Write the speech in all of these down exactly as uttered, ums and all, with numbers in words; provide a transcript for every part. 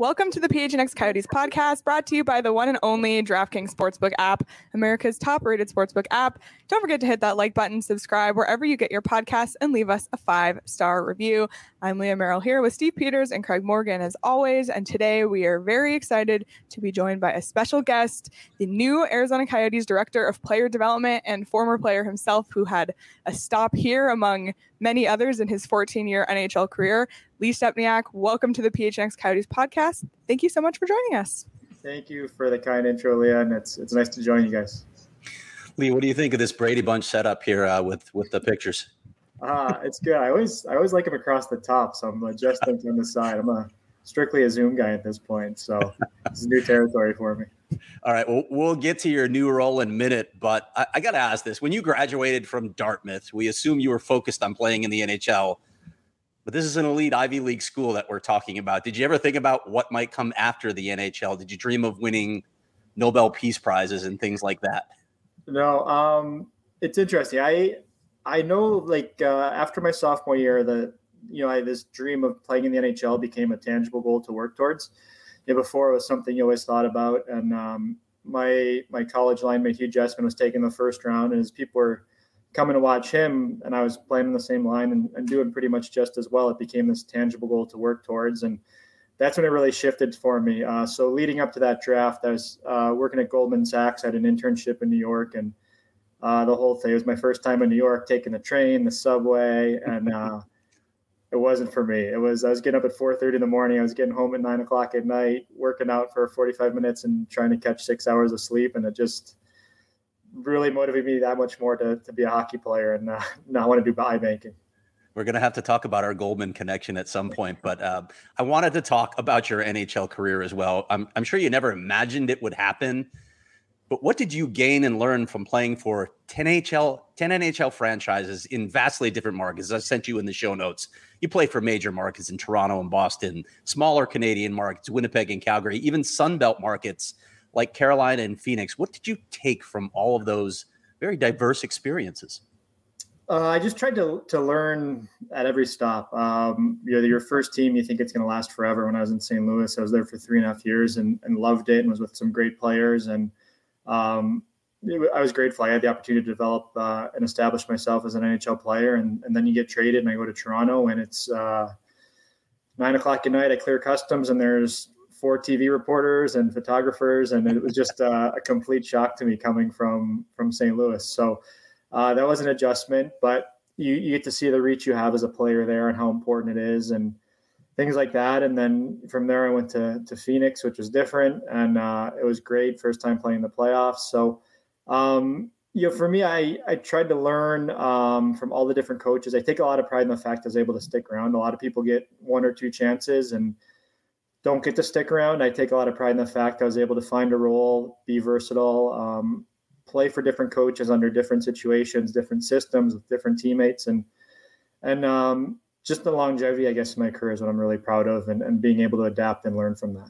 Welcome to the P H N X Coyotes podcast, brought to you by the one and only DraftKings Sportsbook app, America's top-rated sportsbook app. Don't forget to hit that like button, subscribe wherever you get your podcasts, and leave us a five-star review. I'm Leah Merrill here with Steve Peters and Craig Morgan as always, and today we are very excited to be joined by a special guest, the new Arizona Coyotes Director of Player Development and former player himself who had a stop here among many others in his fourteen-year N H L career, Lee Stempniak. Welcome to the P H N X Coyotes podcast. Thank you so much for joining us. Thank you for the kind intro, Leah, and it's it's nice to join you guys. Lee, what do you think of this Brady Bunch setup here uh, with with the pictures? Uh, it's good. I always I always like them across the top, so I'm adjusting on the side. I'm a strictly a Zoom guy at this point, so this is new territory for me. All right, well, we'll get to your new role in a minute, but I, I got to ask this. When you graduated from Dartmouth, we assume you were focused on playing in the N H L, but this is an elite Ivy League school that we're talking about. Did you ever think about what might come after the N H L? Did you dream of winning Nobel Peace Prizes and things like that? No, um, it's interesting. I I know, like, uh, after my sophomore year, the you know, I, this dream of playing in the N H L became a tangible goal to work towards. Yeah, before it was something you always thought about. And um, my my college line mate, Hugh Jessman, was taking the first round, and as people were coming to watch him, and I was playing in the same line and, and doing pretty much just as well, it became this tangible goal to work towards. And that's when it really shifted for me. Uh, so leading up to that draft, I was uh, working at Goldman Sachs. I had an internship in New York, and uh, the whole thing, it was my first time in New York, taking the train, the subway, and uh, it wasn't for me. It was, I was getting up at four thirty in the morning. I was getting home at nine o'clock at night, working out for forty-five minutes and trying to catch six hours of sleep. And it just really motivated me that much more to, to be a hockey player and uh, not want to do iBanking. We're going to have to talk about our Goldman connection at some point, but uh, I wanted to talk about your N H L career as well. I'm, I'm sure you never imagined it would happen, but what did you gain and learn from playing for ten N H L, ten N H L franchises in vastly different markets? I sent you in the show notes. You played for major markets in Toronto and Boston, smaller Canadian markets, Winnipeg and Calgary, even Sunbelt markets like Carolina and Phoenix. What did you take from all of those very diverse experiences? Uh, I just tried to to learn at every stop. Um, you know, your first team, you think it's going to last forever. When I was in Saint Louis, I was there for three and a half years and, and loved it and was with some great players. And um, it, I was grateful. I had the opportunity to develop uh, and establish myself as an N H L player. And, and then you get traded and I go to Toronto and it's uh, nine o'clock at night. I clear customs and there's four T V reporters and photographers. And it was just uh, a complete shock to me coming from, from Saint Louis. So Uh, that was an adjustment, but you, you get to see the reach you have as a player there and how important it is and things like that. And then from there, I went to, to Phoenix, which was different. And uh, it was great. First time playing the playoffs. So, um, you know, for me, I, I tried to learn um, from all the different coaches. I take a lot of pride in the fact I was able to stick around. A lot of people get one or two chances and don't get to stick around. I take a lot of pride in the fact I was able to find a role, be versatile, um, play for different coaches under different situations, different systems with different teammates. And, and um, just the longevity, I guess, in my career is what I'm really proud of and, and being able to adapt and learn from that.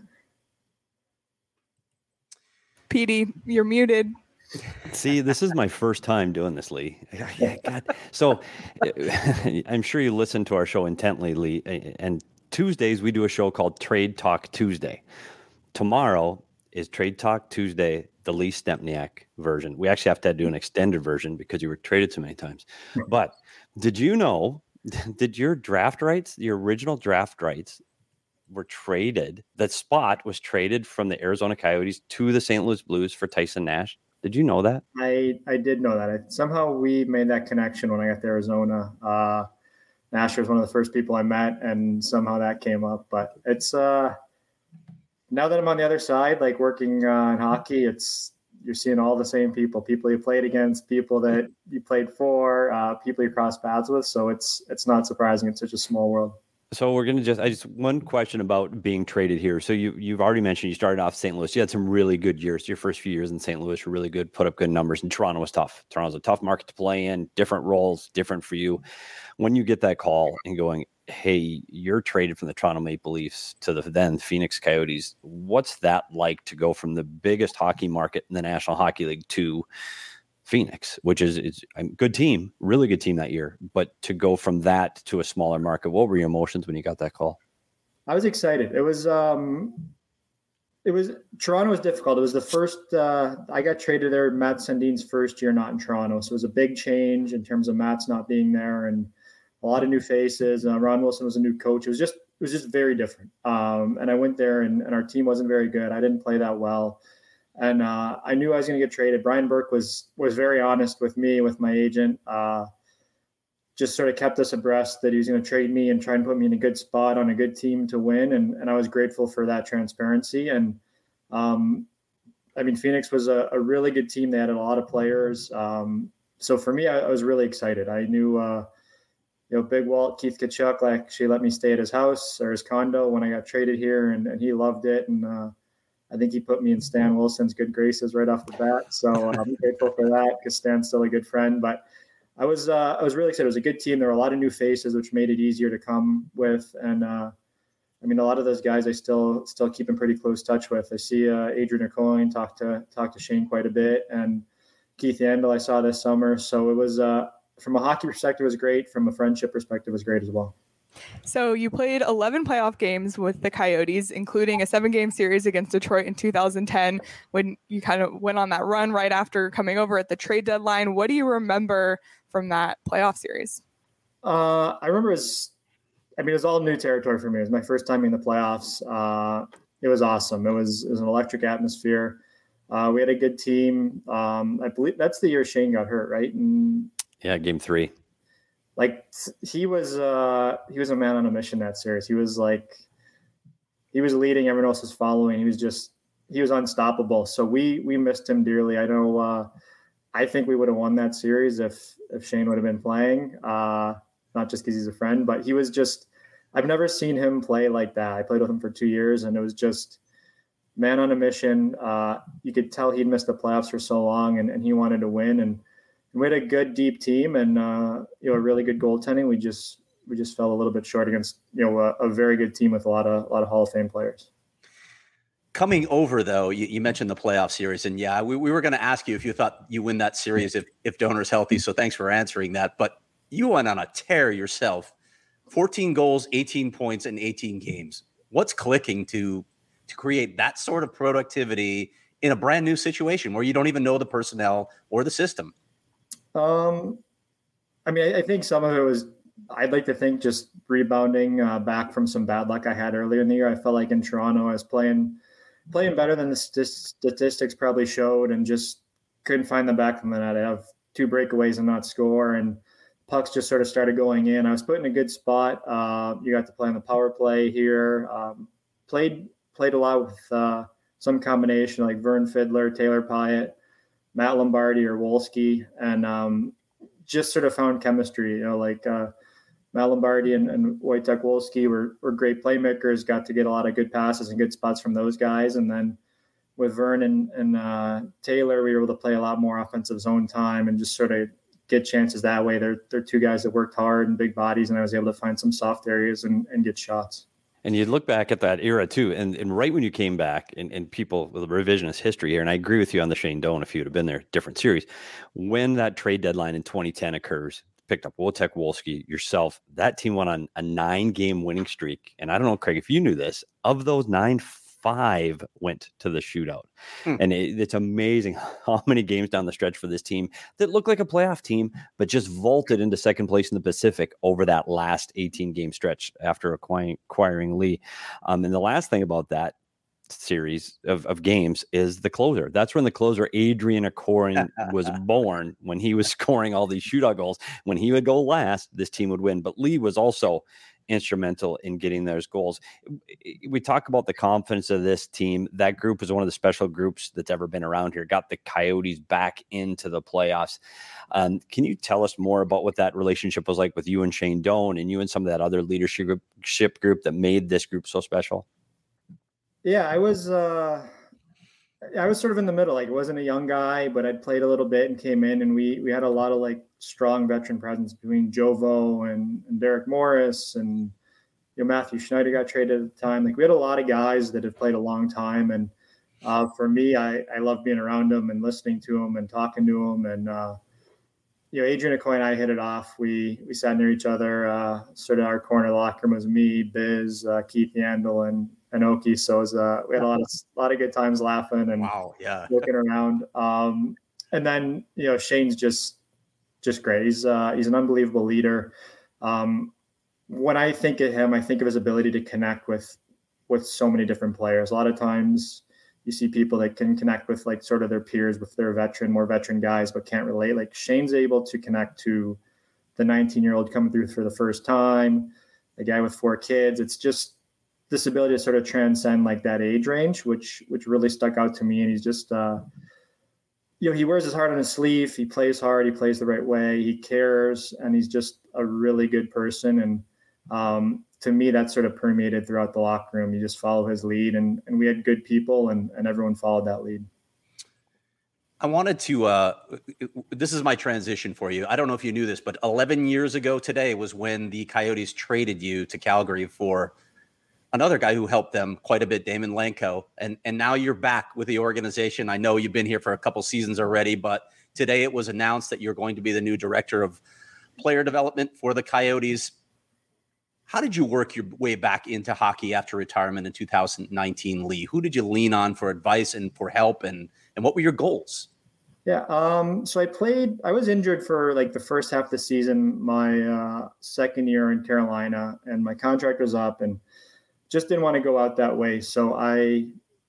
P D, you're muted. See, this is my first time doing this, Lee. God. So I'm sure you listen to our show intently, Lee. And Tuesdays, we do a show called Trade Talk Tuesday. Tomorrow is Trade Talk Tuesday, the Lee Stempniak version. We actually have to do an extended version because you were traded so many times. But did you know, did your draft rights, your original draft rights were traded, that spot was traded from the Arizona Coyotes to the Saint Louis Blues for Tyson Nash? Did you know that? I, I did know that. I, somehow we made that connection when I got to Arizona. Uh, Nash was one of the first people I met, and somehow that came up. But it's uh, now that I'm on the other side, like working uh, in hockey, it's you're seeing all the same people, people you played against, people that you played for, uh, people you cross paths with. So it's it's not surprising. It's such a small world. So we're going to just, I just, one question about being traded here. So you, you've already mentioned you started off Saint Louis. You had some really good years. Your first few years in Saint Louis were really good, put up good numbers. And Toronto was tough. Toronto's a tough market to play in, different roles, different for you. When you get that call and going, hey, you're traded from the Toronto Maple Leafs to the then Phoenix Coyotes, what's that like to go from the biggest hockey market in the National Hockey League to Phoenix, which is, is a good team, really good team that year, but to go from that to a smaller market, what were your emotions when you got that call? I was excited. It was, um, it was Toronto was difficult. It was the first, uh, I got traded there, Matt Sundin's first year not in Toronto. So it was a big change in terms of Matt's not being there and a lot of new faces. Uh, Ron Wilson was a new coach. It was just, it was just very different. Um, and I went there and, and our team wasn't very good. I didn't play that well. And uh, I knew I was going to get traded. Brian Burke was, was very honest with me, with my agent, uh, just sort of kept us abreast that he was going to trade me and try and put me in a good spot on a good team to win. And, and I was grateful for that transparency. And um, I mean, Phoenix was a, a really good team. They had a lot of players. Um, so for me, I, I was really excited. I knew, uh, you know, Big Walt, Keith Tkachuk, like actually let me stay at his house or his condo when I got traded here, and, and he loved it. And uh, I think he put me in Stan Wilson's good graces right off the bat. So uh, I'm grateful for that because Stan's still a good friend. But I was uh, I was really excited. It was a good team. There were a lot of new faces, which made it easier to come with. And uh, I mean, a lot of those guys I still still keep in pretty close touch with. I see uh, Adrian Aucoin talk to talk to Shane quite a bit, and Keith Yandel I saw this summer. So it was uh, from a hockey perspective, it was great. From a friendship perspective, it was great as well. So you played eleven playoff games with the Coyotes, including a seven-game series against Detroit in two thousand ten when you kind of went on that run right after coming over at the trade deadline. What do you remember from that playoff series? Uh, I remember it was, I mean, it was all new territory for me. It was my first time in the playoffs. Uh, it was awesome. It was, it was an electric atmosphere. Uh, we had a good team. Um, I believe that's the year Shane got hurt, right? And yeah, game three. Like he was, uh, he was a man on a mission that series. He was like, he was leading, everyone else was following. He was just, he was unstoppable. So we, we missed him dearly. I know, uh, I think we would have won that series if, if Shane would have been playing, uh, not just because he's a friend, but he was just, I've never seen him play like that. I played with him for two years and it was just man on a mission. Uh, you could tell he'd missed the playoffs for so long and, and he wanted to win. And we had a good deep team and, uh, you know, a really good goaltending. We just, we just fell a little bit short against, you know, a, a very good team with a lot of, a lot of Hall of Fame players. Coming over, though, you, you mentioned the playoff series, and yeah, we, we were going to ask you if you thought you win that series if, if Donor's healthy, so thanks for answering that. But you went on a tear yourself, fourteen goals, eighteen points in eighteen games. What's clicking to to create that sort of productivity in a brand new situation where you don't even know the personnel or the system? Um, I mean, I, I think some of it was, I'd like to think just rebounding uh, back from some bad luck I had earlier in the year. I felt like in Toronto, I was playing – playing better than the st- statistics probably showed and just couldn't find the back of the net. I have two breakaways and not score, and pucks just sort of started going in. I was put in a good spot. Uh, you got to play on the power play here. Um, played played a lot with uh, some combination like Vern Fiddler, Taylor Pyatt, Matt Lombardi, or Wolski, and um, just sort of found chemistry. You know, like uh, Matt Lombardi and, and Wojtek Wolski were, were great playmakers, got to get a lot of good passes and good spots from those guys. And then with Vern and, and uh, Taylor, we were able to play a lot more offensive zone time and just sort of get chances that way. They're, they're two guys that worked hard and big bodies, and I was able to find some soft areas and, and get shots. And you look back at that era too, and, and right when you came back, and, and people with a revisionist history here, and I agree with you on the Shane Doan, if you'd have been there, different series. When that trade deadline in twenty ten occurs, picked up Wojtek Wolski, yourself, that team went on a nine-game winning streak. And I don't know, Craig, if you knew this, of those nine, five went to the shootout. Hmm. And it, it's amazing how many games down the stretch for this team that looked like a playoff team, but just vaulted into second place in the Pacific over that last eighteen-game stretch after acquiring, acquiring Lee. Um, and the last thing about that series of, of games is the closer. That's when the closer Adrian Aucoin was born, when he was scoring all these shootout goals. When he would go last, this team would win. But Lee was also instrumental in getting those goals. We talk about the confidence of this team. That group is one of the special groups that's ever been around here, got the Coyotes back into the playoffs. Um, can you tell us more about what that relationship was like with you and Shane Doan and you and some of that other leadership group that made this group so special? Yeah, I was uh, I was sort of in the middle. Like, I wasn't a young guy, but I'd played a little bit and came in, and we we had a lot of like strong veteran presence between Jovo and, and Derek Morris, and you know Matthew Schneider got traded at the time. Like, we had a lot of guys that had played a long time, and uh, for me, I I love being around them and listening to them and talking to them, and uh, you know, Adrian Acoy and I hit it off. We we sat near each other. Uh, sort of our corner of the locker room was me, Biz, uh, Keith Yandel, and and Oki. So it was, uh, we had a lot of a lot of good times laughing and wow, yeah, looking around. Um, and then you know, Shane's just just great. He's uh, he's an unbelievable leader. Um, when I think of him, I think of his ability to connect with with so many different players. A lot of times you see people that can connect with like sort of their peers, with their veteran, more veteran guys, but can't relate. Like Shane's able to connect to the nineteen year old coming through for the first time, the guy with four kids. It's just this ability to sort of transcend like that age range, which, which really stuck out to me. And he's just, uh, you know, he wears his heart on his sleeve. He plays hard. He plays the right way. He cares. And he's just a really good person. And, um, to me, that sort of permeated throughout the locker room. You just follow his lead, and, and we had good people, and, and everyone followed that lead. I wanted to, uh, this is my transition for you. I don't know if you knew this, but eleven years ago today was when the Coyotes traded you to Calgary for another guy who helped them quite a bit, Damon Lanko. And, and now you're back with the organization. I know you've been here for a couple seasons already, but today it was announced that you're going to be the new director of player development for the Coyotes. How did you work your way back into hockey after retirement in two thousand nineteen, Lee? Who did you lean on for advice and for help, and and what were your goals? Yeah, um, so I played, I was injured for like the first half of the season, my uh, second year in Carolina, and my contract was up and just didn't want to go out that way. So I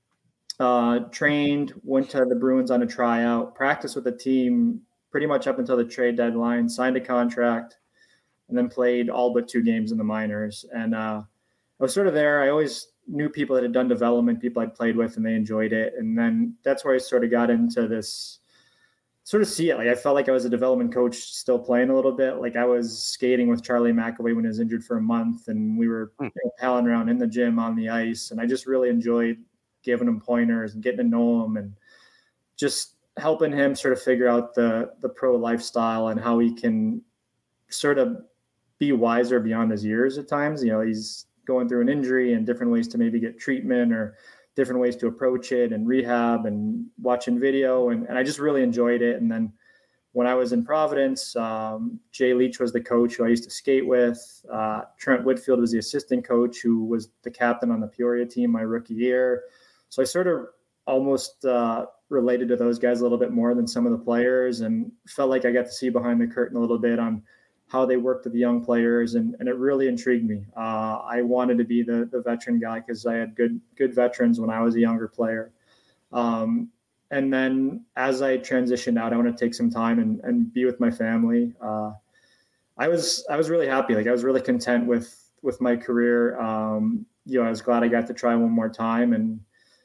uh, trained, went to the Bruins on a tryout, practiced with the team pretty much up until the trade deadline, signed a contract, and then played all but two games in the minors. And uh, I was sort of there. I always knew people that had done development, people I'd played with, and they enjoyed it. And then that's where I sort of got into this, sort of see it. Like I felt like I was a development coach still playing a little bit. Like I was skating with Charlie McAvoy when he was injured for a month, and we were you know, palling around in the gym on the ice. And I just really enjoyed giving him pointers and getting to know him and just helping him sort of figure out the the pro lifestyle and how he can sort of be wiser beyond his years at times. You know, he's going through an injury and different ways to maybe get treatment or different ways to approach it and rehab and watching video. And, and I just really enjoyed it. And then when I was in Providence, um, Jay Leach was the coach who I used to skate with. Uh, Trent Whitfield was the assistant coach who was the captain on the Peoria team my rookie year. So I sort of almost uh, related to those guys a little bit more than some of the players, and felt like I got to see behind the curtain a little bit on how they worked with the young players, and, and it really intrigued me. Uh, I wanted to be the the veteran guy because I had good good veterans when I was a younger player. Um, and then as I transitioned out, I want to take some time and, and be with my family. Uh, I was I was really happy. Like I was really content with with my career. Um, you know, I was glad I got to try one more time, and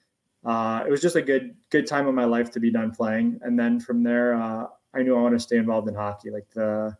uh, it was just a good good time of my life to be done playing. And then from there, uh, I knew I wanted to stay involved in hockey. Like the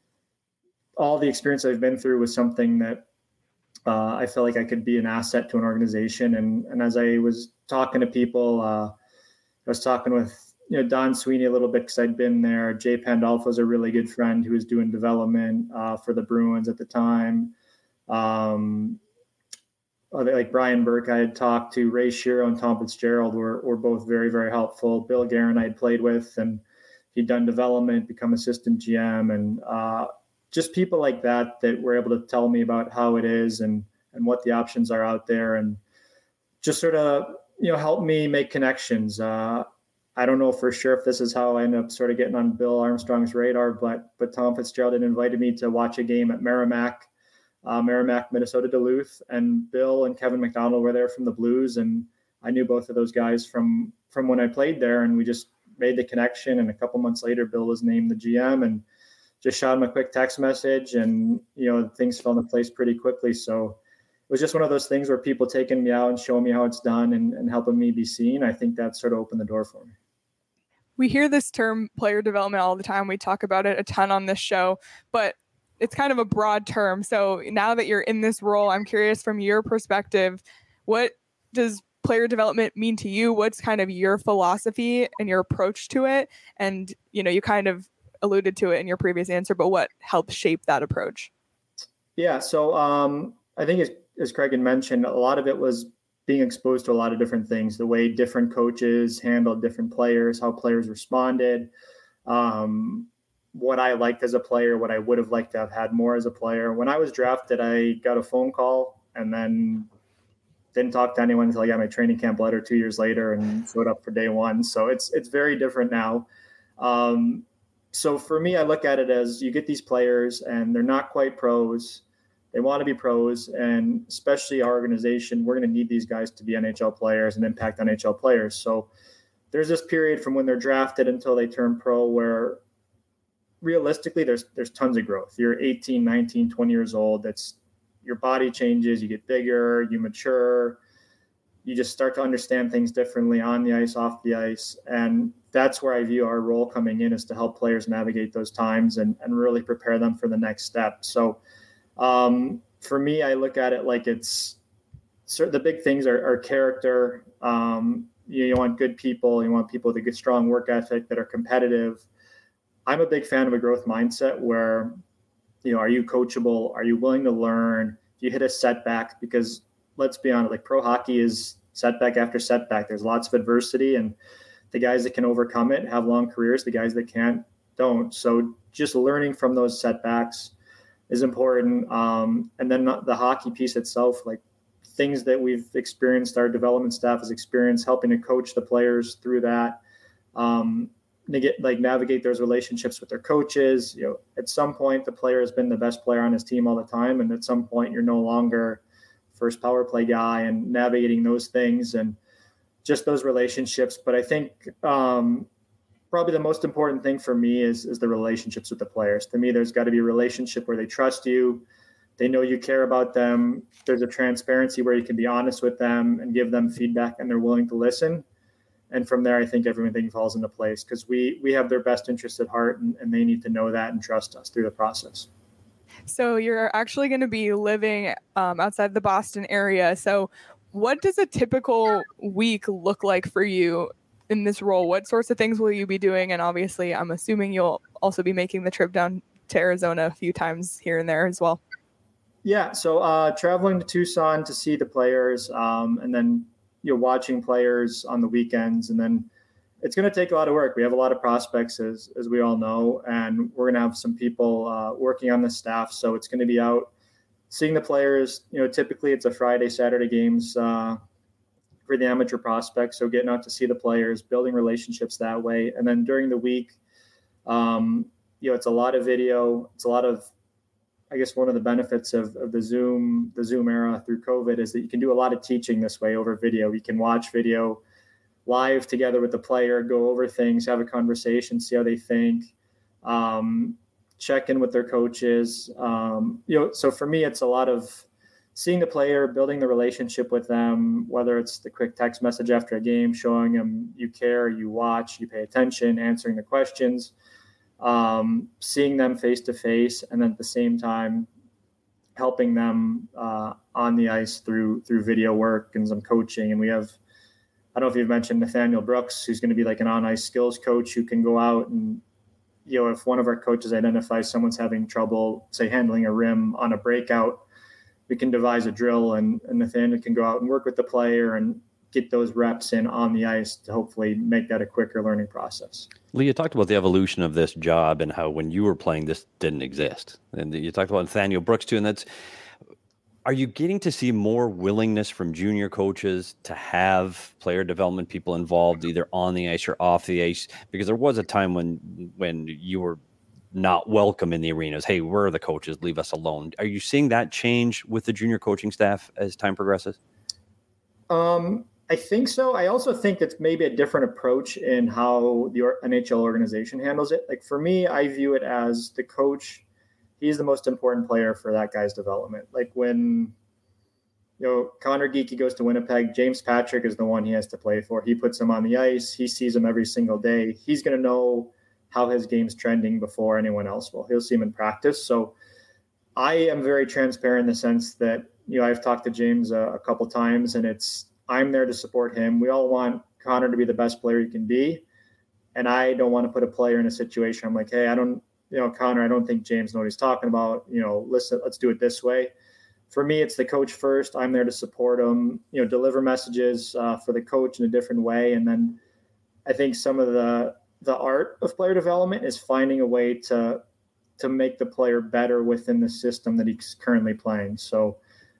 all the experience I've been through was something that uh, I felt like I could be an asset to an organization. And, and as I was talking to people, uh, I was talking with, you know, Don Sweeney a little bit because I'd been there. Jay Pandolfo was a really good friend who was doing development uh, for the Bruins at the time. Um, like Brian Burke, I had talked to. Ray Shiro and Tom Fitzgerald were, were both very, very helpful. Bill Guerin I had played with, and he'd done development, become assistant G M, and uh, just people like that that were able to tell me about how it is and, and what the options are out there, and just sort of, you know, help me make connections. Uh, I don't know for sure if this is how I ended up sort of getting on Bill Armstrong's radar, but, but Tom Fitzgerald had invited me to watch a game at Merrimack, uh, Merrimack, Minnesota, Duluth, and Bill and Kevin McDonald were there from the Blues. And I knew both of those guys from, from when I played there, and we just made the connection. And a couple months later, Bill was named the G M, and just shot him a quick text message, and, you know, things fell into place pretty quickly. So it was just one of those things where people taking me out and showing me how it's done and, and helping me be seen. I think that sort of opened the door for me. We hear this term player development all the time. We talk about it a ton on this show, but it's kind of a broad term. So now that you're in this role, I'm curious from your perspective, what does player development mean to you? What's kind of your philosophy and your approach to it? And, you know, you kind of alluded to it in your previous answer, but what helped shape that approach? Yeah. So um, I think as, as Craig had mentioned, a lot of it was being exposed to a lot of different things, the way different coaches handled different players, how players responded. Um, what I liked as a player, what I would have liked to have had more as a player. When I was drafted, I got a phone call and then didn't talk to anyone until I got my training camp letter two years later and showed up for day one. So it's it's very different now. Um, so for me, I look at it as you get these players and they're not quite pros. They want to be pros, and especially our organization, we're going to need these guys to be N H L players and impact N H L players. So there's this period from when they're drafted until they turn pro where realistically there's there's tons of growth. You're eighteen, nineteen, twenty years old. That's your body changes, you get bigger, you mature, you just start to understand things differently on the ice, off the ice. And that's where I view our role coming in, is to help players navigate those times and, and really prepare them for the next step. So um, for me, I look at it like it's certain, the big things are, are character. Um, you, you want good people, you want people with a good, strong work ethic that are competitive. I'm a big fan of a growth mindset where, you know, are you coachable? Are you willing to learn? If you hit a setback, because let's be honest, like pro hockey is setback after setback. There's lots of adversity, and the guys that can overcome it have long careers. The guys that can't don't. So just learning from those setbacks is important. Um, and then the hockey piece itself, like things that we've experienced, our development staff has experienced, helping to coach the players through that. Um, Get, like navigate those relationships with their coaches. You know, at some point the player has been the best player on his team all the time, and at some point you're no longer first power play guy, and navigating those things and just those relationships. But I think um, probably the most important thing for me is is the relationships with the players. To me, there's got to be a relationship where they trust you, they know you care about them. There's a transparency where you can be honest with them and give them feedback, and they're willing to listen. And from there, I think everything falls into place, because we we have their best interest at heart, and, and they need to know that and trust us through the process. So you're actually going to be living um, outside the Boston area. So what does a typical week look like for you in this role? What sorts of things will you be doing? And obviously, I'm assuming you'll also be making the trip down to Arizona a few times here and there as well. Yeah, so uh, traveling to Tucson to see the players, um, and then you're watching players on the weekends, and then it's going to take a lot of work. We have a lot of prospects, as as we all know, and we're going to have some people uh, working on the staff. So it's going to be out seeing the players. You know, typically it's a Friday, Saturday games uh, for the amateur prospects. So getting out to see the players, building relationships that way. And then during the week, um, you know, it's a lot of video. It's a lot of, I guess one of the benefits of, of the Zoom, the Zoom era through COVID is that you can do a lot of teaching this way over video. You can watch video live together with the player, go over things, have a conversation, see how they think, um, check in with their coaches. Um, you know, so for me, it's a lot of seeing the player, building the relationship with them, whether it's the quick text message after a game, showing them you care, you watch, you pay attention, answering the questions. Um, seeing them face to face, and then at the same time helping them uh, on the ice through through video work and some coaching. And we have, I don't know if you've mentioned Nathaniel Brooks, who's going to be like an on ice skills coach who can go out and, you know, if one of our coaches identifies someone's having trouble, say handling a rim on a breakout, we can devise a drill, and, and Nathaniel can go out and work with the player and get those reps in on the ice to hopefully make that a quicker learning process. Lee, you talked about the evolution of this job and how when you were playing, this didn't exist. And you talked about Nathaniel Brooks too, and that's, are you getting to see more willingness from junior coaches to have player development people involved either on the ice or off the ice? Because there was a time when when you were not welcome in the arenas. Hey, we're the coaches, leave us alone. Are you seeing that change with the junior coaching staff as time progresses? Um, I think so. I also think that's maybe a different approach in how the N H L organization handles it. Like for me, I view it as the coach, he's the most important player for that guy's development. Like when, you know, Connor Geekie goes to Winnipeg, James Patrick is the one he has to play for. He puts him on the ice. He sees him every single day. He's going to know how his game's trending before anyone else will. He'll see him in practice. So I am very transparent in the sense that, you know, I've talked to James a, a couple times, and it's, I'm there to support him. We all want Connor to be the best player he can be. And I don't want to put a player in a situation. I'm like, hey, I don't, you know, Connor, I don't think James knows what he's talking about. You know, listen, let's do it this way. For me, it's the coach first. I'm there to support him, you know, deliver messages uh, for the coach in a different way. And then I think some of the, the art of player development is finding a way to to make the player better within the system that he's currently playing. So,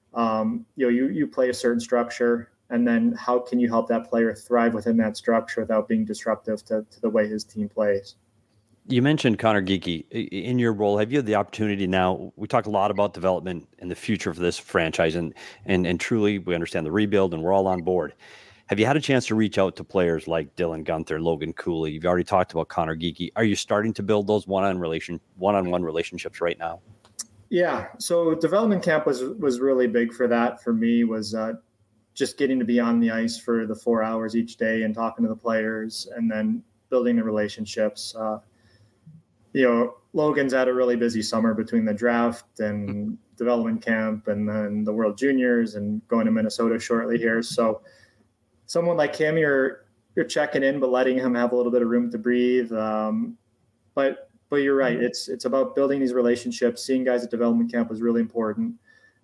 um, you know, you you play a certain structure, and then how can you help that player thrive within that structure without being disruptive to, to the way his team plays? You mentioned Conor Geekie. In your role, have you had the opportunity now? We talk a lot about development and the future for this franchise, and and and truly we understand the rebuild, and we're all on board. Have you had a chance to reach out to players like Dylan Guenther, Logan Cooley? You've already talked about Conor Geekie. Are you starting to build those one-on relation, one-on-one relationships right now? Yeah. So development camp was was really big for that. For me, was uh, just getting to be on the ice for the four hours each day and talking to the players, and then building the relationships. Uh, you know, Logan's had a really busy summer between the draft and development camp, and then the World Juniors, and going to Minnesota shortly here. So someone like him, you're you're checking in, but letting him have a little bit of room to breathe. Um, but but you're right. It's it's about building these relationships. Seeing guys at development camp was really important.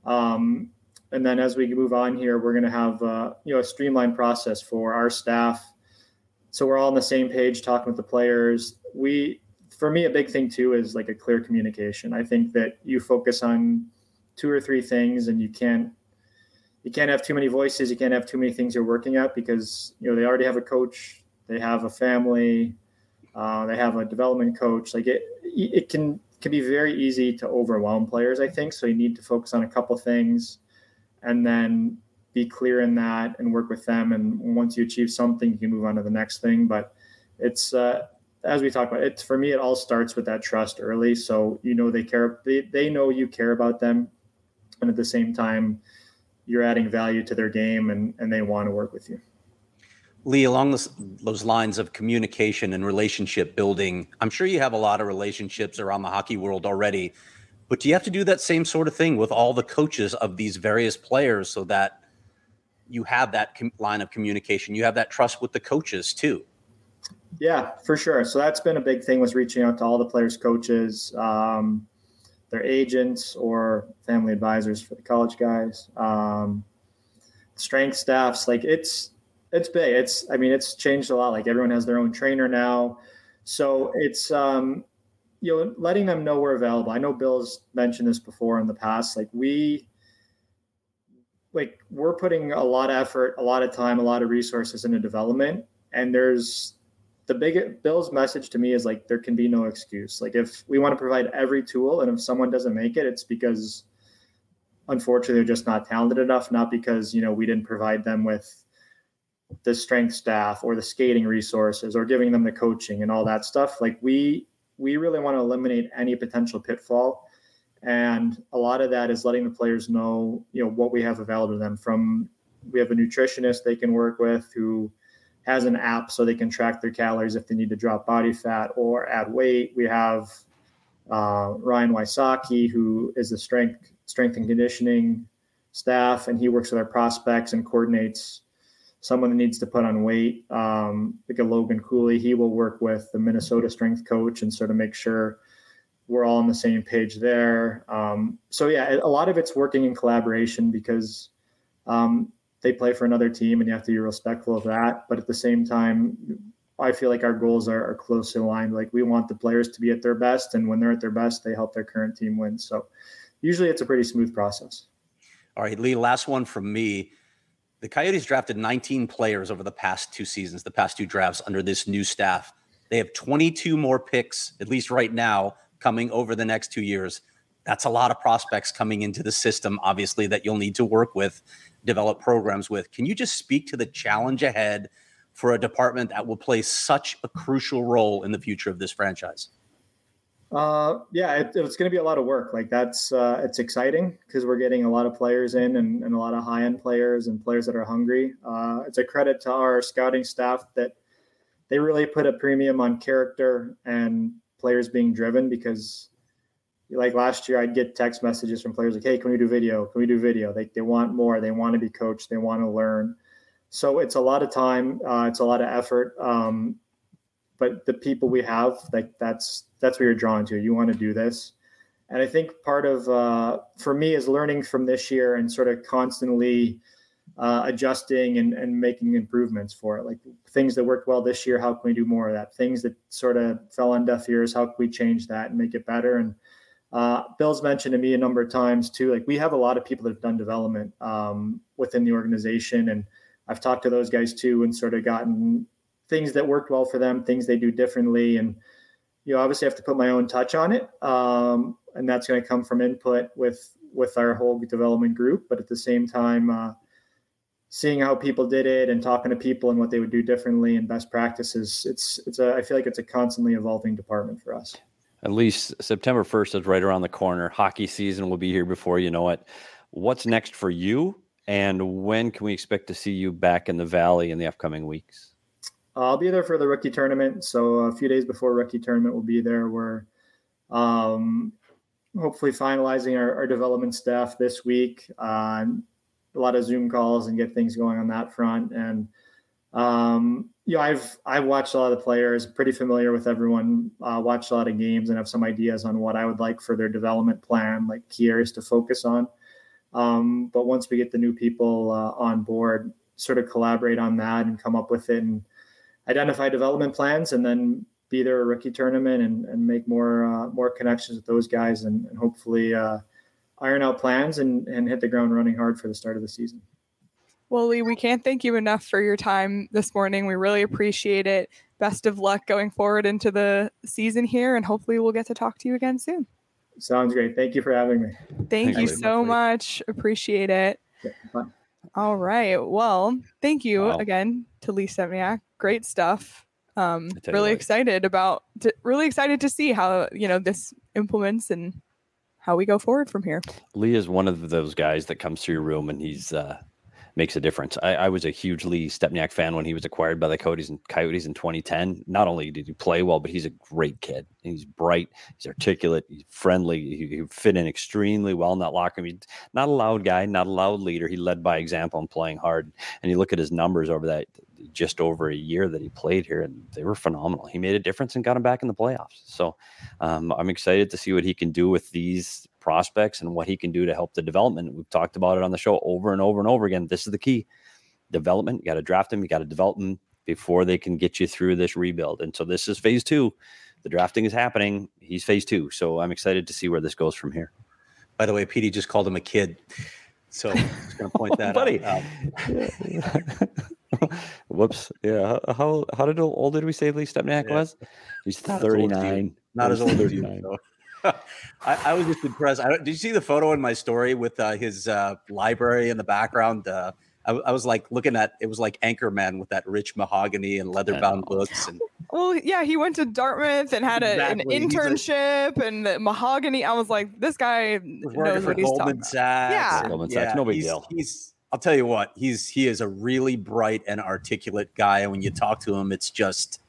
Um, and then as we move on here, we're going to have uh, you know a streamlined process for our staff, so we're all on the same page talking with the players. We, for me, a big thing too is like a clear communication. I think that you focus on two or three things, and you can't. You can't have too many voices. You can't have too many things you're working at, because, you know, they already have a coach, they have a family, uh, they have a development coach. Like it, it can, can be very easy to overwhelm players, I think. So you need to focus on a couple things and then be clear in that and work with them. And once you achieve something, you can move on to the next thing. But it's, uh, as we talked about, it's, for me, it all starts with that trust early. So, you know, they care, they, they know you care about them. And at the same time, you're adding value to their game, and, and they want to work with you. Lee, along this, those lines of communication and relationship building, I'm sure you have a lot of relationships around the hockey world already, but do you have to do that same sort of thing with all the coaches of these various players so that you have that com- line of communication, you have that trust with the coaches too? Yeah, for sure. So that's been a big thing, was reaching out to all the players' coaches, um, their agents or family advisors for the college guys, um, strength staffs. Like it's, it's big. It's, I mean, it's changed a lot. Like everyone has their own trainer now. So it's, um, you know, letting them know we're available. I know Bill's mentioned this before in the past. Like we, like we're putting a lot of effort, a lot of time, a lot of resources into development. And there's, the big Bill's message to me is like, there can be no excuse. Like if we want to provide every tool, and if someone doesn't make it, it's because unfortunately they're just not talented enough, not because, you know, we didn't provide them with the strength staff or the skating resources or giving them the coaching and all that stuff. Like we, we really want to eliminate any potential pitfall. And a lot of that is letting the players know, you know, what we have available to them. From, we have a nutritionist they can work with who has an app so they can track their calories if they need to drop body fat or add weight. We have uh, Ryan Wysocki, who is the strength strength and conditioning staff, and he works with our prospects and coordinates someone that needs to put on weight. Um, like a Logan Cooley, he will work with the Minnesota strength coach and sort of make sure we're all on the same page there. Um, so yeah, a lot of it's working in collaboration, because um, they play for another team and you have to be respectful of that. But at the same time, I feel like our goals are, are closely aligned. Like we want the players to be at their best, and when they're at their best, they help their current team win. So usually it's a pretty smooth process. All right, Lee, last one from me. The Coyotes drafted nineteen players over the past two seasons, the past two drafts under this new staff. They have twenty-two more picks, at least right now, coming over the next two years. That's a lot of prospects coming into the system, obviously, that you'll need to work with, develop programs with. Can you just speak to the challenge ahead for a department that will play such a crucial role in the future of this franchise? Uh, yeah, it, it's going to be a lot of work. Like that's, uh, it's exciting because we're getting a lot of players in, and, and a lot of high end players and players that are hungry. Uh, it's a credit to our scouting staff that they really put a premium on character and players being driven, because like last year I'd get text messages from players like, hey, can we do video? Can we do video? They, they want more. They want to be coached. They want to learn. So it's a lot of time. Uh, it's a lot of effort. Um, but the people we have, like that's, that's what you're drawn to. You want to do this. And I think part of, uh, for me, is learning from this year and sort of constantly uh, adjusting and, and making improvements for it. Like things that worked well this year, how can we do more of that? Things that sort of fell on deaf ears, how can we change that and make it better? And uh, Bill's mentioned to me a number of times too, like we have a lot of people that have done development um, within the organization. And I've talked to those guys too and sort of gotten things that worked well for them, things they do differently. And, you know, obviously I have to put my own touch on it. Um, and that's going to come from input with, with our whole development group. But at the same time, uh, seeing how people did it and talking to people and what they would do differently and best practices, it's, it's a, I feel like it's a constantly evolving department for us. At least September first is right around the corner. Hockey season will be here before you know it. What's next for you? And when can we expect to see you back in the Valley in the upcoming weeks? I'll be there for the rookie tournament. So a few days before rookie tournament, we'll be there. We're um, hopefully finalizing our, our development staff this week. Uh, a lot of Zoom calls and get things going on that front. And, um, you know, I've, I've watched a lot of the players, pretty familiar with everyone, uh, watched a lot of games and have some ideas on what I would like for their development plan, like key areas to focus on. Um, but once we get the new people uh, on board, sort of collaborate on that and come up with it and identify development plans, and then be there a rookie tournament and, and make more uh, more connections with those guys and, and hopefully uh, iron out plans and, and hit the ground running hard for the start of the season. Well, Lee, we can't thank you enough for your time this morning. We really appreciate it. Best of luck going forward into the season here, and hopefully we'll get to talk to you again soon. Sounds great. Thank you for having me. Thank you so much. Appreciate it. Yeah, bye. All right. Well, thank you Wow. again to Lee Stempniak. Great stuff. Um, tell you really what. excited about, to, really excited to see how, you know, this implements and how we go forward from here. Lee is one of those guys that comes through your room and he's uh, makes a difference. I, I was a huge Lee Stempniak fan when he was acquired by the Coyotes and Coyotes in twenty ten. Not only did he play well, but he's a great kid. He's bright, he's articulate, he's friendly. He, he fit in extremely well in that locker room. He's not a loud guy, not a loud leader. He led by example and playing hard. And you look at his numbers over that just over a year that he played here, and they were phenomenal. He made a difference and got him back in the playoffs. So um, I'm excited to see what he can do with these prospects and what he can do to help the development. We've talked about it on the show over and over and over again. This is the key. Development. You got to draft them. You got to develop them before they can get you through this rebuild. And so this is phase two. The drafting is happening. He's phase two. So I'm excited to see where this goes from here. By the way, Petey just called him a kid. So I'm just going to point that Buddy. out. Um, Whoops. Yeah. How how did old did we say Lee Stempniak Yeah. was? He's Not as old as you. thirty-nine. Not as old as you. thirty-nine. So. I, I was just impressed. I, did you see the photo in my story with uh, his uh, library in the background? Uh, I, I was like looking at it was like Anchorman with that rich mahogany and leather-bound books. And Well, yeah, he went to Dartmouth and had a, Exactly. an He's a- internship and the mahogany. I was like, this guy was working knows for what he's talking Goldman about. Sachs. Yeah. and- Goldman Sachs, no big he's, deal. He's. I'll tell you what. He's he is a really bright and articulate guy, and when you talk to him, it's just.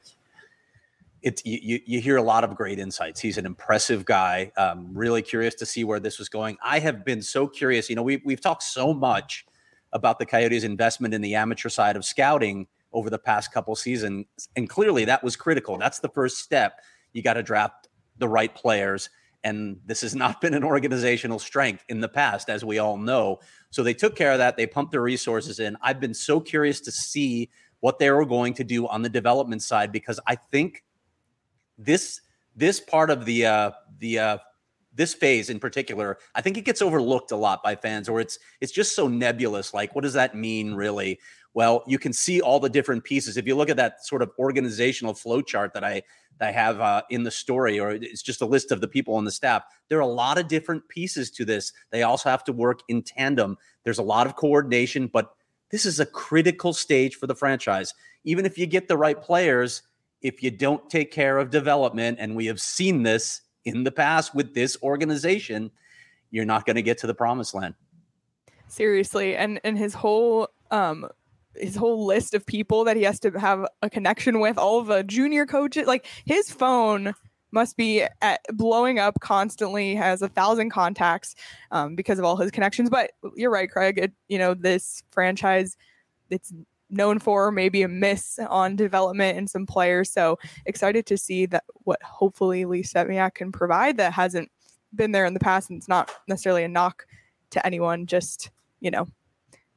It's you, you, you hear a lot of great insights. He's an impressive guy. Um, really curious to see where this was going. I have been so curious. You know, we, we've talked so much about the Coyotes' investment in the amateur side of scouting over the past couple seasons, and clearly that was critical. That's the first step. You got to draft the right players, and this has not been an organizational strength in the past, as we all know. So they took care of that. They pumped their resources in. I've been so curious to see what they were going to do on the development side, because I think this this part of the uh, the uh, this phase in particular, I think it gets overlooked a lot by fans, or it's it's just so nebulous. Like, what does that mean, really? Well, you can see all the different pieces. If you look at that sort of organizational flow chart that I that I have uh, in the story, or it's just a list of the people on the staff, there are a lot of different pieces to this. They also have to work in tandem. There's a lot of coordination, but this is a critical stage for the franchise. Even if you get the right players, if you don't take care of development, and we have seen this in the past with this organization, you're not going to get to the promised land. Seriously. And and his whole um his whole list of people that he has to have a connection with, all of the junior coaches, like his phone must be at, blowing up constantly, has a thousand contacts um, because of all his connections. But you're right, Craig. It, you know, this franchise, it's known for maybe a miss on development and some players. So excited to see that what hopefully Lee Stempniak can provide that hasn't been there in the past. And it's not necessarily a knock to anyone, just, you know,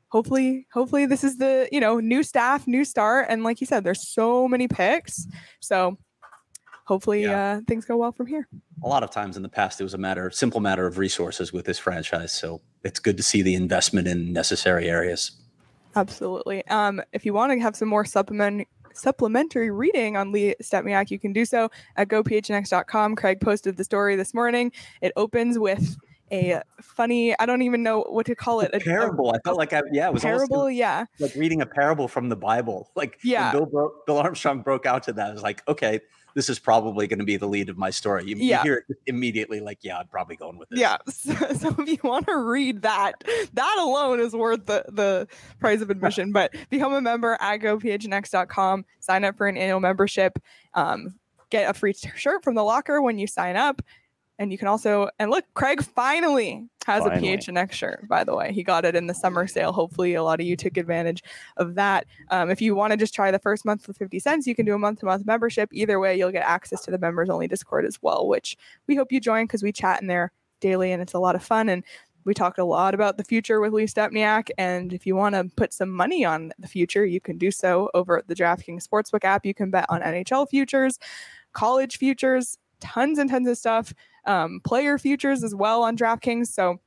hopefully, hopefully this is the, you know, new staff, new start. And like you said, there's so many picks. So hopefully yeah. uh, things go well from here. A lot of times in the past, it was a matter, simple matter of resources with this franchise. So it's good to see the investment in necessary areas. Absolutely. Um, if you want to have some more supplement, supplementary reading on Lee Stempniak, you can do so at go p h n x dot com. Craig posted the story this morning. It opens with a funny, I don't even know what to call it. A parable. A, a, I felt like I, yeah, it was parable. Almost, yeah. Like reading a parable from the Bible. Like yeah. when Bill, broke, Bill Armstrong broke out to that, I was like, okay, this is probably going to be the lead of my story. You, yeah. you hear it immediately like, yeah, I'm probably going with this. Yeah. So, so if you want to read that, that alone is worth the, the price of admission. But become a member at go p h n x dot com. Sign up for an annual membership. Um, get a free shirt from the locker when you sign up. And you can also, and look, Craig finally has finally. a P H N X shirt, by the way. He got it in the summer sale. Hopefully a lot of you took advantage of that. Um, if you want to just try the first month for fifty cents, you can do a month-to-month membership. Either way, you'll get access to the members-only Discord as well, which we hope you join because we chat in there daily and it's a lot of fun. And we talked a lot about the future with Lee Stempniak. And if you want to put some money on the future, you can do so over at the DraftKings Sportsbook app. You can bet on N H L futures, college futures, tons and tons of stuff. Um, player futures as well on DraftKings. So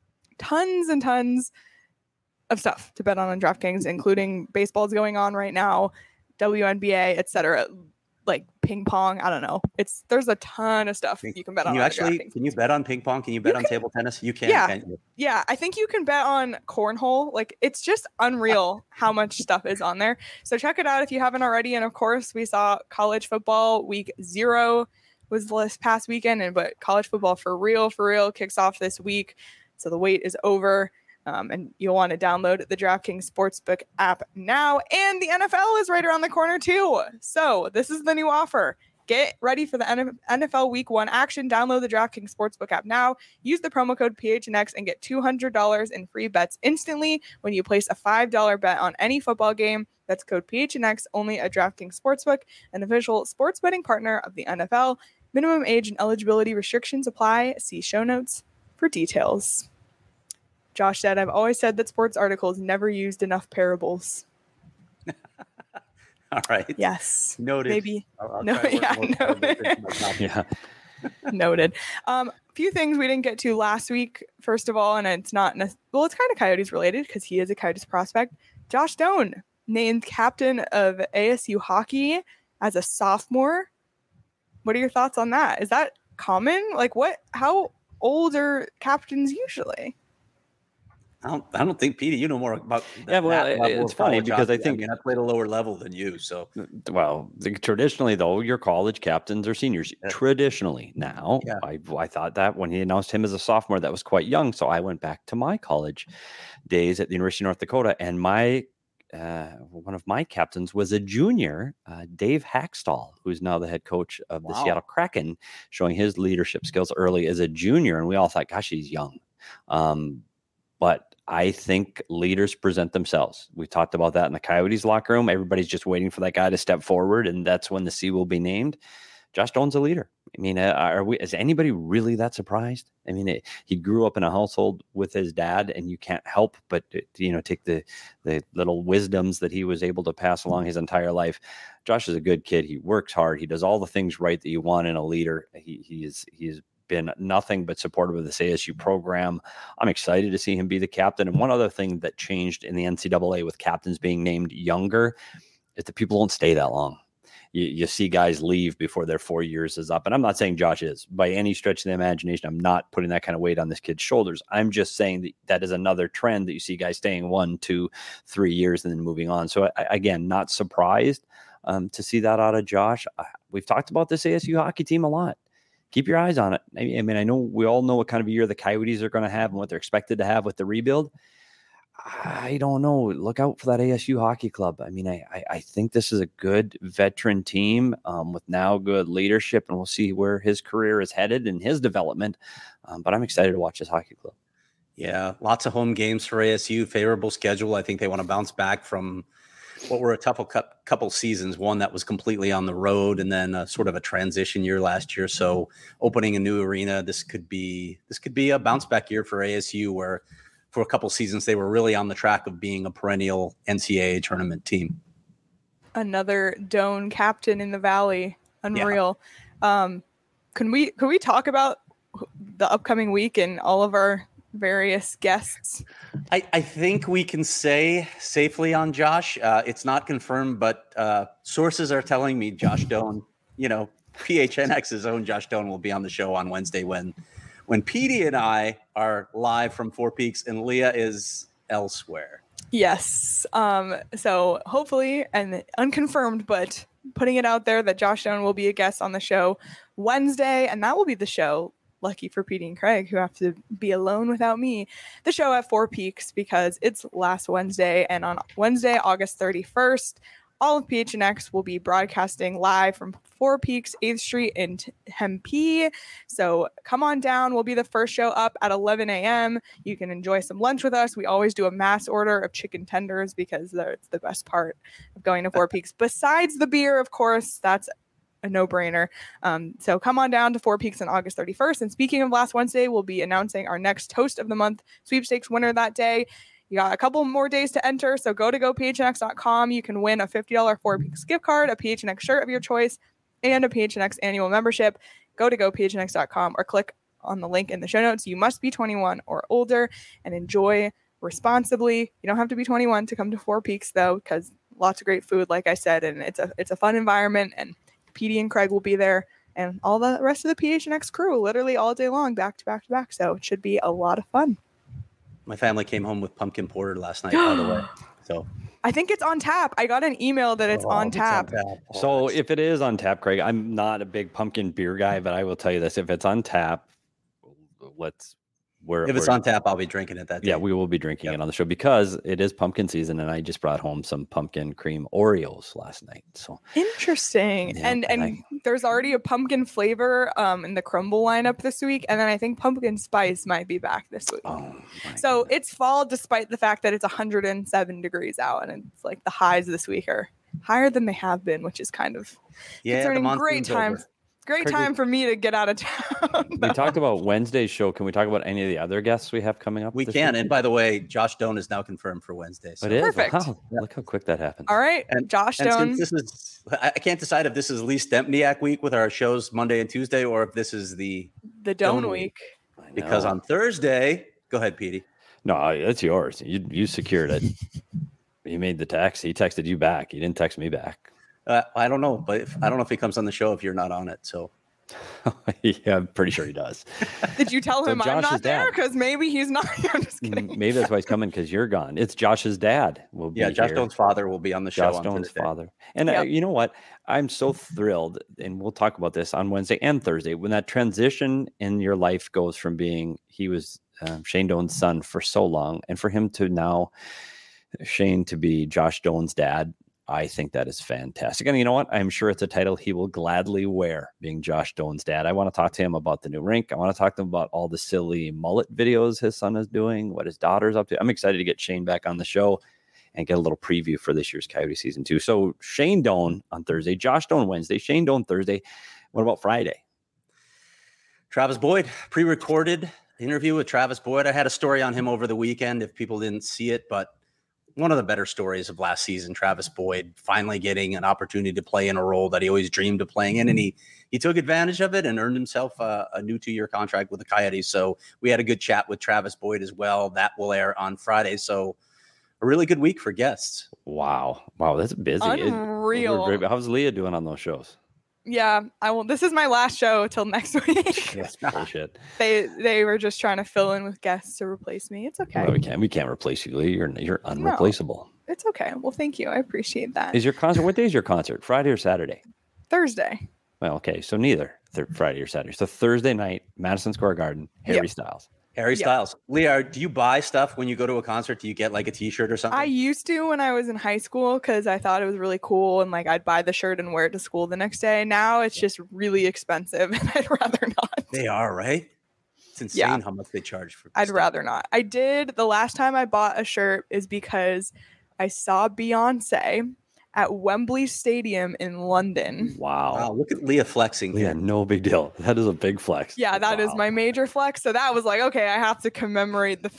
tons and tons of stuff to bet on on DraftKings, including baseball's going on right now, W N B A, et cetera. Like ping pong. I don't know. It's there's a ton of stuff you can bet can on. You on actually DraftKings. Can you bet on ping pong? Can you bet you on can, table tennis? You can. Yeah, can't you? yeah. I think you can bet on cornhole. Like it's just unreal how much stuff is on there. So check it out if you haven't already. And of course, we saw college football week zero was this past weekend, and but college football for real, for real kicks off this week. So the wait is over, um, and you'll want to download the DraftKings Sportsbook app now. And the N F L is right around the corner too. So this is the new offer. Get ready for the N F L Week One action. Download the DraftKings Sportsbook app now. Use the promo code P H N X and get two hundred dollars in free bets instantly when you place a five dollars bet on any football game. That's code P H N X only at DraftKings Sportsbook, an official sports betting partner of the N F L. Minimum age and eligibility restrictions apply. See show notes for details. Josh said, I've always said that sports articles never used enough parables. All right. Yes. Noted. Maybe. I'll, I'll no, yeah, noted. yeah. Noted. Um, a few things we didn't get to last week, first of all, and it's not, ne- well, it's kind of Coyotes related because he is a Coyotes prospect. Josh Stone named captain of A S U hockey as a sophomore. What are your thoughts on that? Is that common? Like what, how old are captains usually? I don't, I don't think, Petey, you know more about that. Yeah, well, it, it's funny because I think I mean, I played a lower level than you. So, well, the, traditionally, though, your college captains are seniors. Yeah. Traditionally, now, yeah. I, I thought that when he announced him as a sophomore, that was quite young. So I went back to my college days at the University of North Dakota, and my Uh, one of my captains was a junior, uh, Dave Hackstall, who's now the head coach of the wow. Seattle Kraken, showing his leadership skills early as a junior. And we all thought, gosh, he's young. Um, but I think leaders present themselves. We talked about that in the Coyotes locker room. Everybody's just waiting for that guy to step forward, and that's when the C will be named. Josh Stone's a leader. I mean, uh, are we? Is anybody really that surprised? I mean, it, he grew up in a household with his dad, and you can't help but you know take the the little wisdoms that he was able to pass along his entire life. Josh is a good kid. He works hard. He does all the things right that you want in a leader. He he is he is. been nothing but supportive of this A S U program. I'm excited to see him be the captain. And one other thing that changed in the N C double A with captains being named younger is that people don't stay that long. You, you see guys leave before their four years is up. And I'm not saying Josh is by any stretch of the imagination. I'm not putting that kind of weight on this kid's shoulders. I'm just saying that that is another trend that you see guys staying one, two, three years and then moving on. So I, again, not surprised um, to see that out of Josh. Uh, we've talked about this A S U hockey team a lot. Keep your eyes on it. I mean, I know we all know what kind of a year the Coyotes are going to have and what they're expected to have with the rebuild. I don't know. Look out for that A S U hockey club. I mean, I I, I think this is a good veteran team um, with now good leadership, and we'll see where his career is headed and his development. Um, but I'm excited to watch this hockey club. Yeah, lots of home games for A S U. Favorable schedule. I think they want to bounce back from what were a couple couple seasons, one that was completely on the road, and then a, sort of a transition year last year. So opening a new arena, this could be this could be a bounce back year for A S U, where for a couple seasons, they were really on the track of being a perennial N C double A tournament team. Another Doan captain in the Valley. Unreal. Yeah. Um, can we, can we talk about the upcoming week and all of our various guests? I, I think we can say safely on Josh. Uh, it's not confirmed, but uh, sources are telling me Josh Doan, you know, P H N X's own Josh Doan will be on the show on Wednesday when when Petey and I are live from Four Peaks and Leah is elsewhere. Yes. Um, so hopefully, and unconfirmed, but putting it out there that Josh Doan will be a guest on the show Wednesday, and that will be the show. Lucky for Petey and Craig, who have to be alone without me, the show at Four Peaks, because it's last Wednesday. And on Wednesday, August thirty-first, all of P H N X will be broadcasting live from Four Peaks, eighth Street in Tempe. So come on down. We'll be the first show up at eleven a.m. You can enjoy some lunch with us. We always do a mass order of chicken tenders because that's the best part of going to Four Peaks. Besides the beer, of course, that's a no-brainer. Um, so come on down to Four Peaks on August thirty-first. And speaking of last Wednesday, we'll be announcing our next Toast of the Month sweepstakes winner that day. You got a couple more days to enter, so go to go P H N X dot com. You can win a fifty dollars Four Peaks gift card, a P H N X shirt of your choice, and a P H N X annual membership. Go to go P H N X dot com or click on the link in the show notes. You must be twenty-one or older and enjoy responsibly. You don't have to be twenty-one to come to Four Peaks, though, because lots of great food, like I said, and it's a it's a fun environment, and Petey and Craig will be there, and all the rest of the P H N X crew, literally all day long, back to back to back. So it should be a lot of fun. My family came home with pumpkin porter last night, by the way. So I think it's on tap. I got an email that it's, oh, on, tap. it's on tap. Oh, so if it is on tap, Craig, I'm not a big pumpkin beer guy, but I will tell you this: if it's on tap, let's. We're, if it's we're, on tap, I'll be drinking it that day. Yeah, we will be drinking yep. it on the show because it is pumpkin season, and I just brought home some pumpkin cream Oreos last night. So interesting. Yeah, and and I, there's already a pumpkin flavor um in the crumble lineup this week, and then I think pumpkin spice might be back this week. Oh, so goodness. It's fall despite the fact that it's one hundred seven degrees out, and it's like the highs this week are higher than they have been, which is kind of yeah, concerning. Great time. Over. Great Craig, time for me to get out of town. We talked about Wednesday's show. Can we talk about any of the other guests we have coming up? We can. Week? And by the way, Josh Doan is now confirmed for Wednesday. So. It is? Perfect. Wow. Yeah. Look how quick that happened. All right. And, Josh and Doan. This is, I can't decide if this is Lee Stempniak week with our shows Monday and Tuesday, or if this is the the Doan, Doan week. week. Because on Thursday, go ahead, Petey. No, it's yours. You you secured it. You made the text. He texted you back. He didn't text me back. Uh, I don't know, but if, I don't know if he comes on the show if you're not on it. So. Yeah, I'm pretty sure he does. Did you tell him so I'm not there? Because maybe he's not. I'm just kidding. Maybe that's why he's coming, because you're gone. It's Josh's dad. Will be yeah, Josh here. Doan's father will be on the show. Josh on Doan's Thursday. father. And yep. I, you know what? I'm so thrilled, and we'll talk about this on Wednesday and Thursday, when that transition in your life goes from being, he was um, Shane Doan's son for so long, and for him to now, Shane to be Josh Doan's dad. I think that is fantastic. And you know what? I'm sure it's a title he will gladly wear, being Josh Doan's dad. I want to talk to him about the new rink. I want to talk to him about all the silly mullet videos his son is doing, what his daughter's up to. I'm excited to get Shane back on the show and get a little preview for this year's Coyote season two. So Shane Doan on Thursday, Josh Doan Wednesday, Shane Doan Thursday. What about Friday? Travis Boyd, pre-recorded interview with Travis Boyd. I had a story on him over the weekend if people didn't see it, but one of the better stories of last season, Travis Boyd finally getting an opportunity to play in a role that he always dreamed of playing in. And he, he took advantage of it and earned himself a, a new two-year contract with the Coyotes. So we had a good chat with Travis Boyd as well. That will air on Friday. So a really good week for guests. Wow. Wow. That's busy. Unreal. It, how's Leah doing on those shows? Yeah, I will. This is my last show till next week. That's bullshit. They they were just trying to fill in with guests to replace me. It's okay. No, we can't. We can't replace you, Lee. You're you're unreplaceable. No, it's okay. Well, thank you. I appreciate that. Is your concert? What day is your concert? Friday or Saturday? Thursday. Well, okay. So neither th- Friday or Saturday. So Thursday night, Madison Square Garden, Harry yep. Styles. Harry yep. Styles. Leah, do you buy stuff when you go to a concert? Do you get like a t-shirt or something? I used to when I was in high school because I thought it was really cool and like I'd buy the shirt and wear it to school the next day. Now it's just really expensive and I'd rather not. They are, right? It's insane yeah. how much they charge for I'd stuff. rather not. I did. The last time I bought a shirt is because I saw Beyonce at Wembley Stadium in London. Wow. Wow. Look at Leah flexing. Yeah, no big deal. That is a big flex. Yeah, that wow. is my major flex. So that was like, okay, I have to commemorate the fact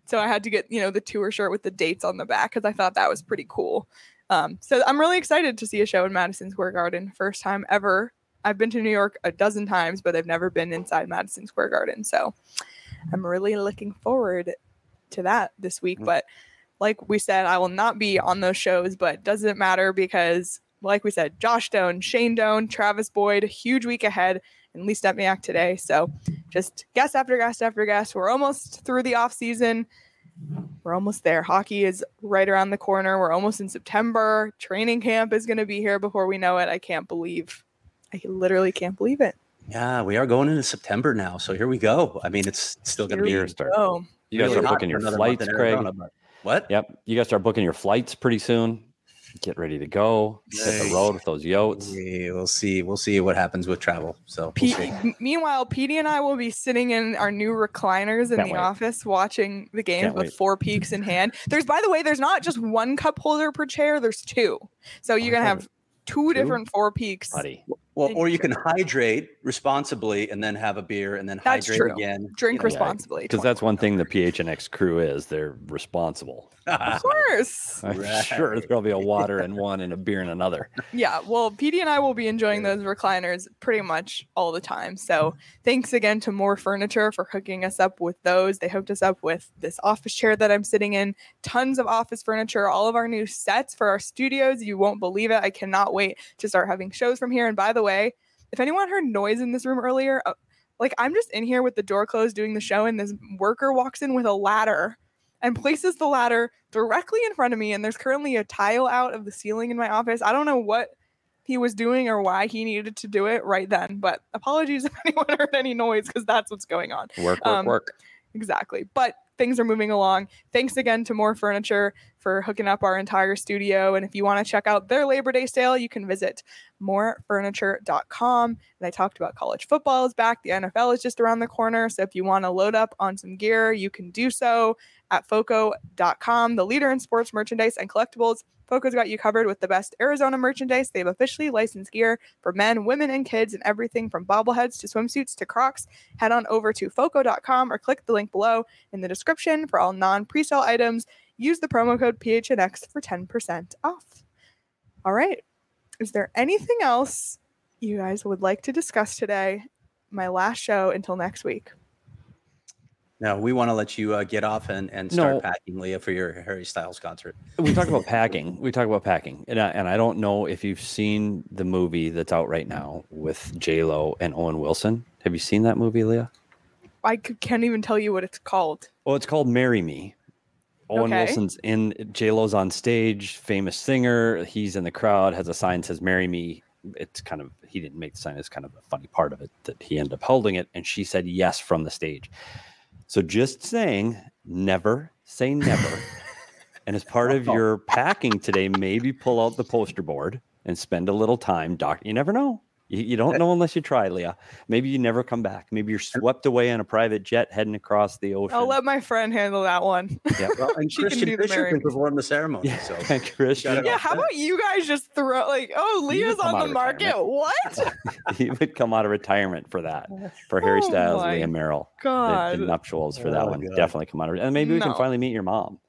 So I had to get, you know, the tour shirt with the dates on the back because I thought that was pretty cool. Um, so I'm really excited to see a show in Madison Square Garden. First time ever. I've been to New York a dozen times, but I've never been inside Madison Square Garden. So I'm really looking forward to that this week. But like we said, I will not be on those shows, but it doesn't matter because, like we said, Josh Doan, Shane Doan, Travis Boyd, huge week ahead, and Lee Stepniak today. So just guest after guest after guest. We're almost through the off season. We're almost there. Hockey is right around the corner. We're almost in September. Training camp is going to be here before we know it. I can't believe. I literally can't believe it. Yeah, we are going into September now. So here we go. I mean, it's still going to be here. Start. Oh. You guys really start booking your flights, Craig. Arizona, but- What? Yep. You guys start booking your flights pretty soon. Get ready to go. Hit the road with those yotes. Yeah, we'll see. We'll see what happens with travel. So P- we'll see. m- meanwhile, Petey and I will be sitting in our new recliners in Can't the wait. office watching the games Can't with wait. four peaks in hand. There's, by the way, there's not just one cup holder per chair. There's two. So you're going to have two different four peaks. Buddy. Well, or you can hydrate responsibly and then have a beer and then That's hydrate true. again. Drink You know, responsibly. Because that's one thing the P H N X crew is. They're responsible. Of course. I'm Right. sure there'll be a water in one and a beer in another. Yeah, well, Petey and I will be enjoying those recliners pretty much all the time. So thanks again to More Furniture for hooking us up with those. They hooked us up with this office chair that I'm sitting in, tons of office furniture, all of our new sets for our studios. You won't believe it. I cannot wait to start having shows from here. And by the way, if anyone heard noise in this room earlier, uh, like I'm just in here with the door closed doing the show and this worker walks in with a ladder and places the ladder directly in front of me. And there's currently a tile out of the ceiling in my office. I don't know what he was doing or why he needed to do it right then, but apologies if anyone heard any noise because that's what's going on. Work, work, Um, work. Exactly. But things are moving along. Thanks again to More Furniture for hooking up our entire studio. And if you want to check out their Labor Day sale, you can visit more furniture dot com. And I talked about college football is back. The N F L is just around the corner. So if you want to load up on some gear, you can do so at foco dot com, the leader in sports merchandise and collectibles. Foco's got you covered with the best Arizona merchandise. They've officially licensed gear for men, women, and kids, and everything from bobbleheads to swimsuits to Crocs. Head on over to foco dot com or click the link below in the description for all non-presale items. Use the promo code P H N X for ten percent off. All right. Is there anything else you guys would like to discuss today? My last show until next week. No, we want to let you uh, get off and, and start No. packing, Leah, for your Harry Styles concert. We talk about packing. We talk about packing, and I, and I don't know if you've seen the movie that's out right now with J Lo and Owen Wilson. Have you seen that movie, Leah? I c- can't even tell you what it's called. Well, it's called "Marry Me." Owen Okay. Wilson's in. J Lo's on stage, famous singer. He's in the crowd, has a sign that says "Marry Me." It's kind of he didn't make the sign. It's kind of a funny part of it that he ended up holding it, and she said yes from the stage. So just saying, never say never. And as part of your packing today, maybe pull out the poster board and spend a little time. Doc, you never know. You, you don't know unless you try, Leah. Maybe you never come back. Maybe you're swept away on a private jet heading across the ocean. I'll let my friend handle that one. Yeah. Well, and She can Christian do the Fisher marrying. can perform the ceremony. Yeah, So Christian. Got it Yeah, how about you guys just throw like, oh, He would Leah's come on out the of market. retirement. What? He would come out of retirement for that. For Harry Oh Styles, my Leah Merrill. The, God. the nuptials for that Oh, one. God. Definitely come out of And maybe we can No. finally meet your mom.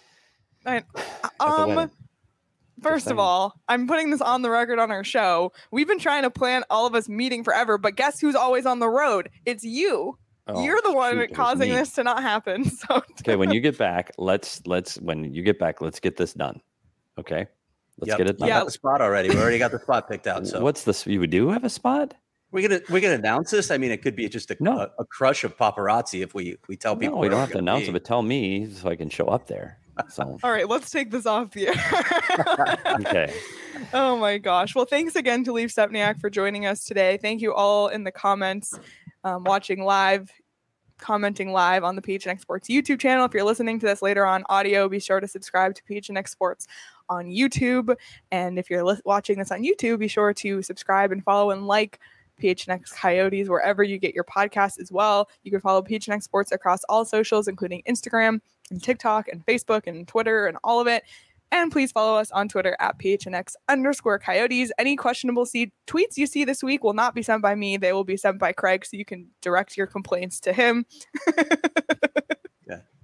I- at the um, wedding. first of saying. all, I'm putting this on the record on our show. We've been trying to plan all of us meeting forever, but guess who's always on the road? It's you. Oh, You're the one shoot, it was causing me. this to not happen. So Okay, when you get back, let's let's when you get back, let's get this done. Okay, let's Yep. get it I done. Yeah. got the spot already. We already got the spot picked out. So What's this? You do have a spot? we're gonna we're gonna announce this. I mean, it could be just a No. a, a crush of paparazzi if we we tell people. No, we where don't we're have to gonna announce be. it, but tell me so I can show up there. So all right, let's take this off the air. okay, Oh my gosh. Well, thanks again to Leaf Stepniak for joining us today. Thank you all in the comments, um, watching live, commenting live on the P H N X Sports YouTube channel. If you're listening to this later on audio, be sure to subscribe to P H N X Sports on YouTube. And if you're li- watching this on YouTube, be sure to subscribe and follow and like P H N X Coyotes wherever you get your podcasts as well. You can follow P H N X Sports across all socials, including Instagram and TikTok and Facebook and Twitter and all of it. And please follow us on Twitter at P H N X underscore Coyotes. Any questionable see- tweets you see this week will not be sent by me. They will be sent by Craig, so you can direct your complaints to him. Yeah.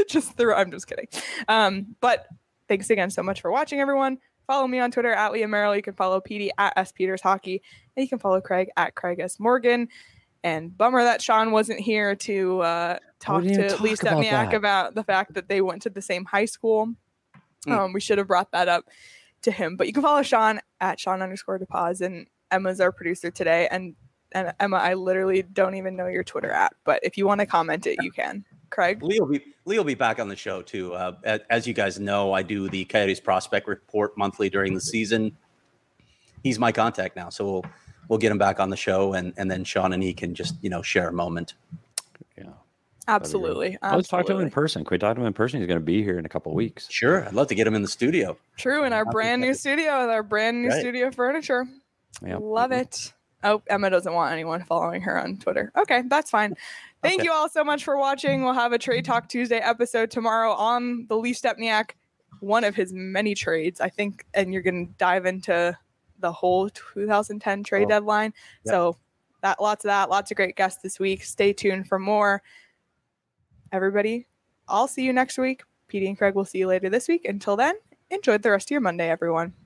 just through. I'm just kidding. Um, but thanks again so much for watching, everyone. Follow me on Twitter at Leah Merrill. You can follow P D at S Peters Hockey, and you can follow Craig at Craig S Morgan. And bummer that Sean wasn't here to uh, talk to talk Lee about Stepniak that. about the fact that they went to the same high school. Mm. Um, we should have brought that up to him. But you can follow Sean at Sean underscore DePaz, and Emma's our producer today. And and Emma, I literally don't even know your Twitter at, but if you want to comment it, you can. Craig? Lee will be Lee will be back on the show too. Uh, as, as you guys know, I do the Coyotes prospect report monthly during the season. He's my contact now, so we'll we'll get him back on the show, and and then Sean and he can just you know share a moment. Yeah, Absolutely. let's talk to him in Absolutely. person. Can we talk to him in person? He's going to be here in a couple of weeks. Sure, I'd love to get him in the studio. True, in our Happy brand new to- studio with our brand new Right. studio furniture. Yep. Love it. Oh, Emma doesn't want anyone following her on Twitter. Okay, that's fine. Thank Okay. you all so much for watching. We'll have a Trade Talk Tuesday episode tomorrow on the Lee Stepniak, one of his many trades, I think, and you're going to dive into the whole two thousand ten trade Oh. deadline. Yep. So that lots of that, lots of great guests this week. Stay tuned for more. Everybody, I'll see you next week. P D and Craig will see you later this week. Until then, enjoy the rest of your Monday, everyone.